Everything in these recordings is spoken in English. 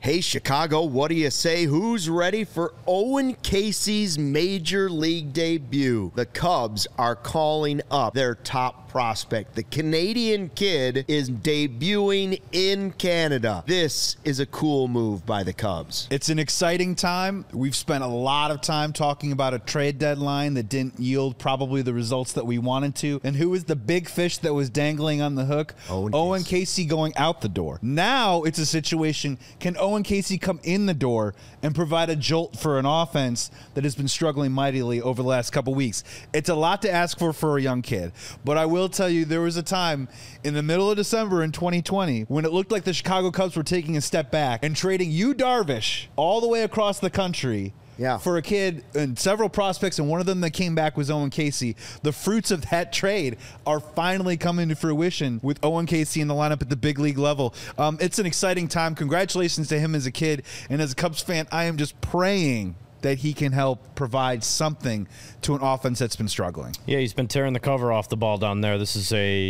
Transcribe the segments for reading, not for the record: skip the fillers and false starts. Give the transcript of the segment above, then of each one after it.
Hey, Chicago, what do you say? Who's ready for Owen Casey's Major League debut? The Cubs are calling up their top prospect. The Canadian kid is debuting in Canada. This is a cool move by the Cubs. It's an exciting time. We've spent a lot of time talking about a trade deadline that didn't yield probably the results that we wanted to. And who was the big fish that was dangling on the hook? Owen Casey going out the door. Now it's a situation, can Owen Casey come in the door and provide a jolt for an offense that has been struggling mightily over the last couple weeks? It's a lot to ask for a young kid, but I will tell you there was a time in the middle of December in 2020 when it looked like the Chicago Cubs were taking a step back and trading Yu Darvish all the way across the country for a kid and several prospects, and one of them that came back was Owen Casey. The fruits of that trade are finally coming to fruition with Owen Casey in the lineup at the big league level. It's an exciting time. Congratulations to him as a kid, and as a Cubs fan, I am just praying that he can help provide something to an offense that's been struggling. Yeah, he's been tearing the cover off the ball down there. This is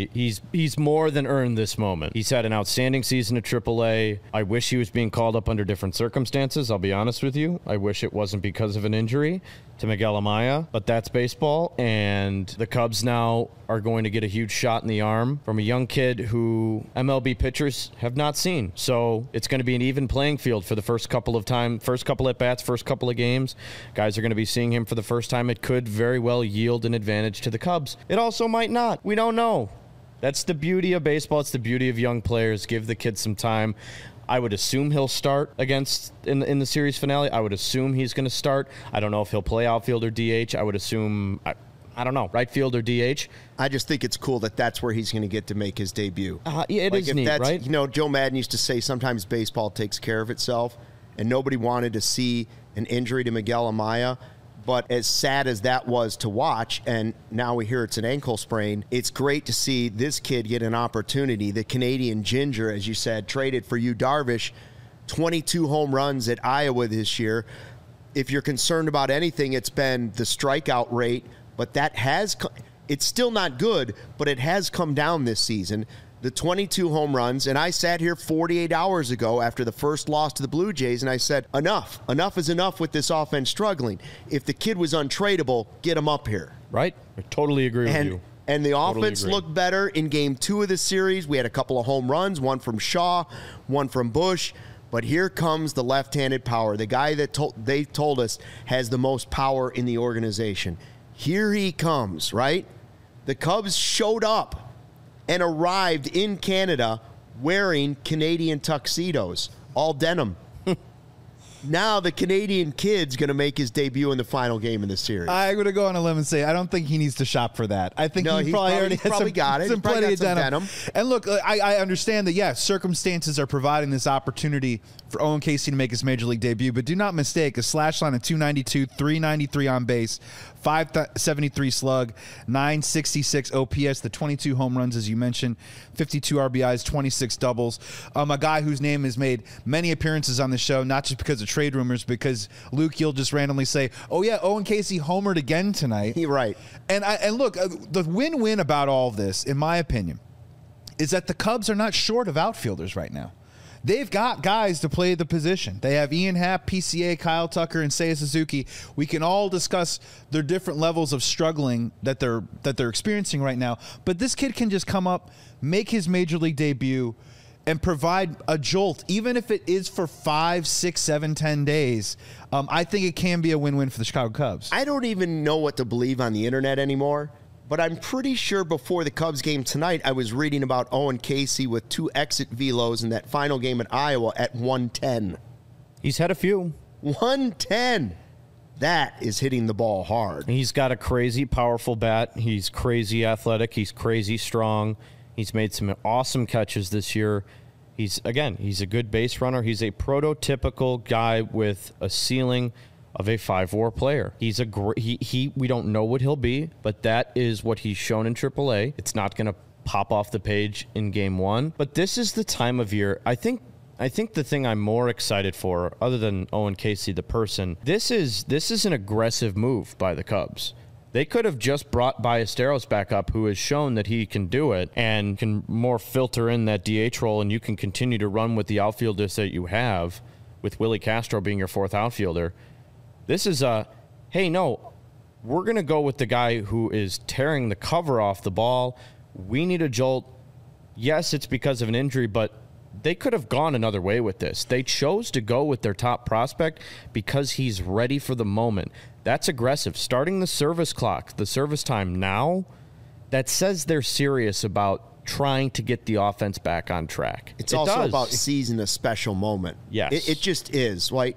he's more than earned this moment. He's had an outstanding season at AAA. I wish he was being called up under different circumstances, I'll be honest with you. I wish it wasn't because of an injury to Miguel Amaya, but that's baseball, and the Cubs now are going to get a huge shot in the arm from a young kid who MLB pitchers have not seen. So it's going to be an even playing field for the first couple at-bats, first couple of games. Guys are going to be seeing him for the first time. It could very well yield an advantage to the Cubs. It also might not. We don't know. That's the beauty of baseball. It's the beauty of young players. Give the kid some time. I would assume he'll start in the series finale. I would assume he's going to start. I don't know if he'll play outfield or DH. I would assume, I don't know, right field or DH. I just think it's cool that that's where he's going to get to make his debut. It is neat, right? You know, Joe Madden used to say sometimes baseball takes care of itself, and nobody wanted to see an injury to Miguel Amaya. But as sad as that was to watch, and now we hear it's an ankle sprain, it's great to see this kid get an opportunity. The Canadian Ginger, as you said, traded for Yu Darvish, 22 home runs at Iowa this year. If you're concerned about anything, it's been the strikeout rate, but it's still not good, but it has come down this season. The 22 home runs, and I sat here 48 hours ago after the first loss to the Blue Jays, and I said, enough is enough with this offense struggling. If the kid was untradeable, get him up here. Right? I totally agree with you. And the offense looked better in Game 2 of the series. We had a couple of home runs, one from Shaw, one from Bush. But here comes the left-handed power, the guy that they told us has the most power in the organization. Here he comes, right? The Cubs showed up and arrived in Canada wearing Canadian tuxedos, all denim. Now the Canadian kid's going to make his debut in the final game of the series. I'm going to go on a limb and say I don't think he needs to shop for that. I think he probably got plenty of denim. And look, I understand that, circumstances are providing this opportunity for Owen Casey to make his Major League debut, but do not mistake a slash line of 292, 393 on base, 573 slug, 966 OPS, the 22 home runs, as you mentioned, 52 RBIs, 26 doubles. A guy whose name has made many appearances on the show, not just because of trade rumors, because Luke, you'll just randomly say, oh yeah, Owen Casey homered again tonight. You're right. And look, the win-win about all of this, in my opinion, is that the Cubs are not short of outfielders right now. They've got guys to play the position. They have Ian Happ, PCA, Kyle Tucker, and Seiya Suzuki. We can all discuss their different levels of struggling that they're experiencing right now. But this kid can just come up, make his Major League debut, and provide a jolt, even if it is for 5, 6, 7, 10 days. I think it can be a win-win for the Chicago Cubs. I don't even know what to believe on the internet anymore. But I'm pretty sure before the Cubs game tonight, I was reading about Owen Casey with 2 exit velos in that final game at Iowa at 110. He's had a few. 110. That is hitting the ball hard. He's got a crazy powerful bat. He's crazy athletic. He's crazy strong. He's made some awesome catches this year. He's a good base runner. He's a prototypical guy with a ceiling of a 5-WAR player. He's we don't know what he'll be, but that is what he's shown in AAA. It's not going to pop off the page in Game 1, but this is the time of year. I think the thing I'm more excited for, other than Owen Casey the person, this is an aggressive move by the Cubs. They could have just brought Ballesteros back up, who has shown that he can do it and can more filter in that DH role, and you can continue to run with the outfielders that you have. with Willie Castro being your fourth outfielder. This is hey, no, we're going to go with the guy who is tearing the cover off the ball. We need a jolt. Yes, it's because of an injury, but they could have gone another way with this. They chose to go with their top prospect because he's ready for the moment. That's aggressive. Starting the service clock, the service time now, that says they're serious about trying to get the offense back on track. It's also about seizing a special moment. Yes. It just is. Like,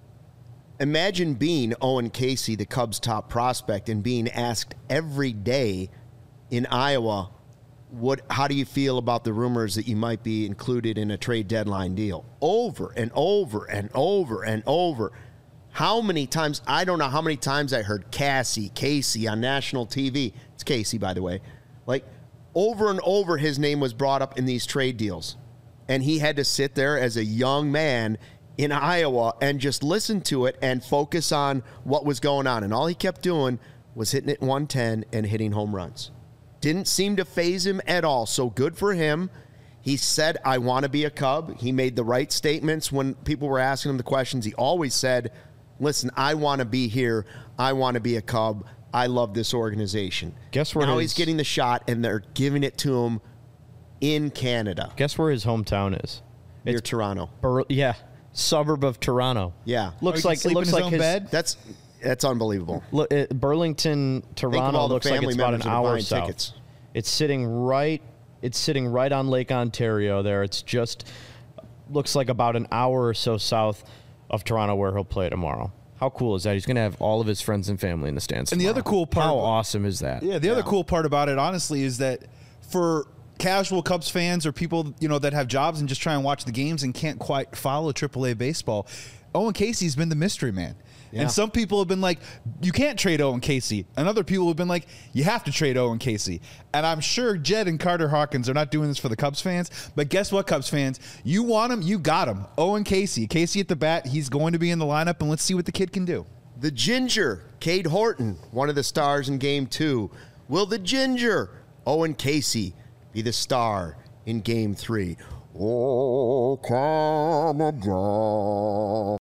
imagine being Owen Casey, the Cubs' top prospect, and being asked every day in Iowa, how do you feel about the rumors that you might be included in a trade deadline deal? Over and over and over and over. How many times? I don't know how many times I heard Casey on national TV. It's Casey, by the way. Like, over and over his name was brought up in these trade deals. And he had to sit there as a young man in Iowa and just listen to it and focus on what was going on. And all he kept doing was hitting it 110 and hitting home runs. Didn't seem to faze him at all. So good for him. He said, I want to be a Cub. He made the right statements when people were asking him the questions. He always said, listen, I want to be here. I want to be a Cub. I love this organization. Guess where now he's getting the shot, and they're giving it to him in Canada. Guess where his hometown is? Near Toronto. Suburb of Toronto. Yeah. Looks like in his own bed? That's unbelievable. Burlington, Toronto looks like it's about an hour south. Tickets. It's sitting right on Lake Ontario there. It's just looks like about an hour or so south of Toronto where he'll play tomorrow. How cool is that? He's going to have all of his friends and family in the stands tomorrow. And the other cool part... How awesome is that? Yeah, the other cool part about it, honestly, is that for casual Cubs fans or people, that have jobs and just try and watch the games and can't quite follow AAA baseball, Owen Casey's been the mystery man. Yeah. And some people have been like, you can't trade Owen Casey. And other people have been like, you have to trade Owen Casey. And I'm sure Jed and Carter Hawkins are not doing this for the Cubs fans. But guess what, Cubs fans? You want him, you got him. Owen Casey. Casey at the bat. He's going to be in the lineup, and let's see what the kid can do. The Ginger, Cade Horton, one of the stars in Game 2. Will the Ginger, Owen Casey, be the star in Game 3? Oh, Canada.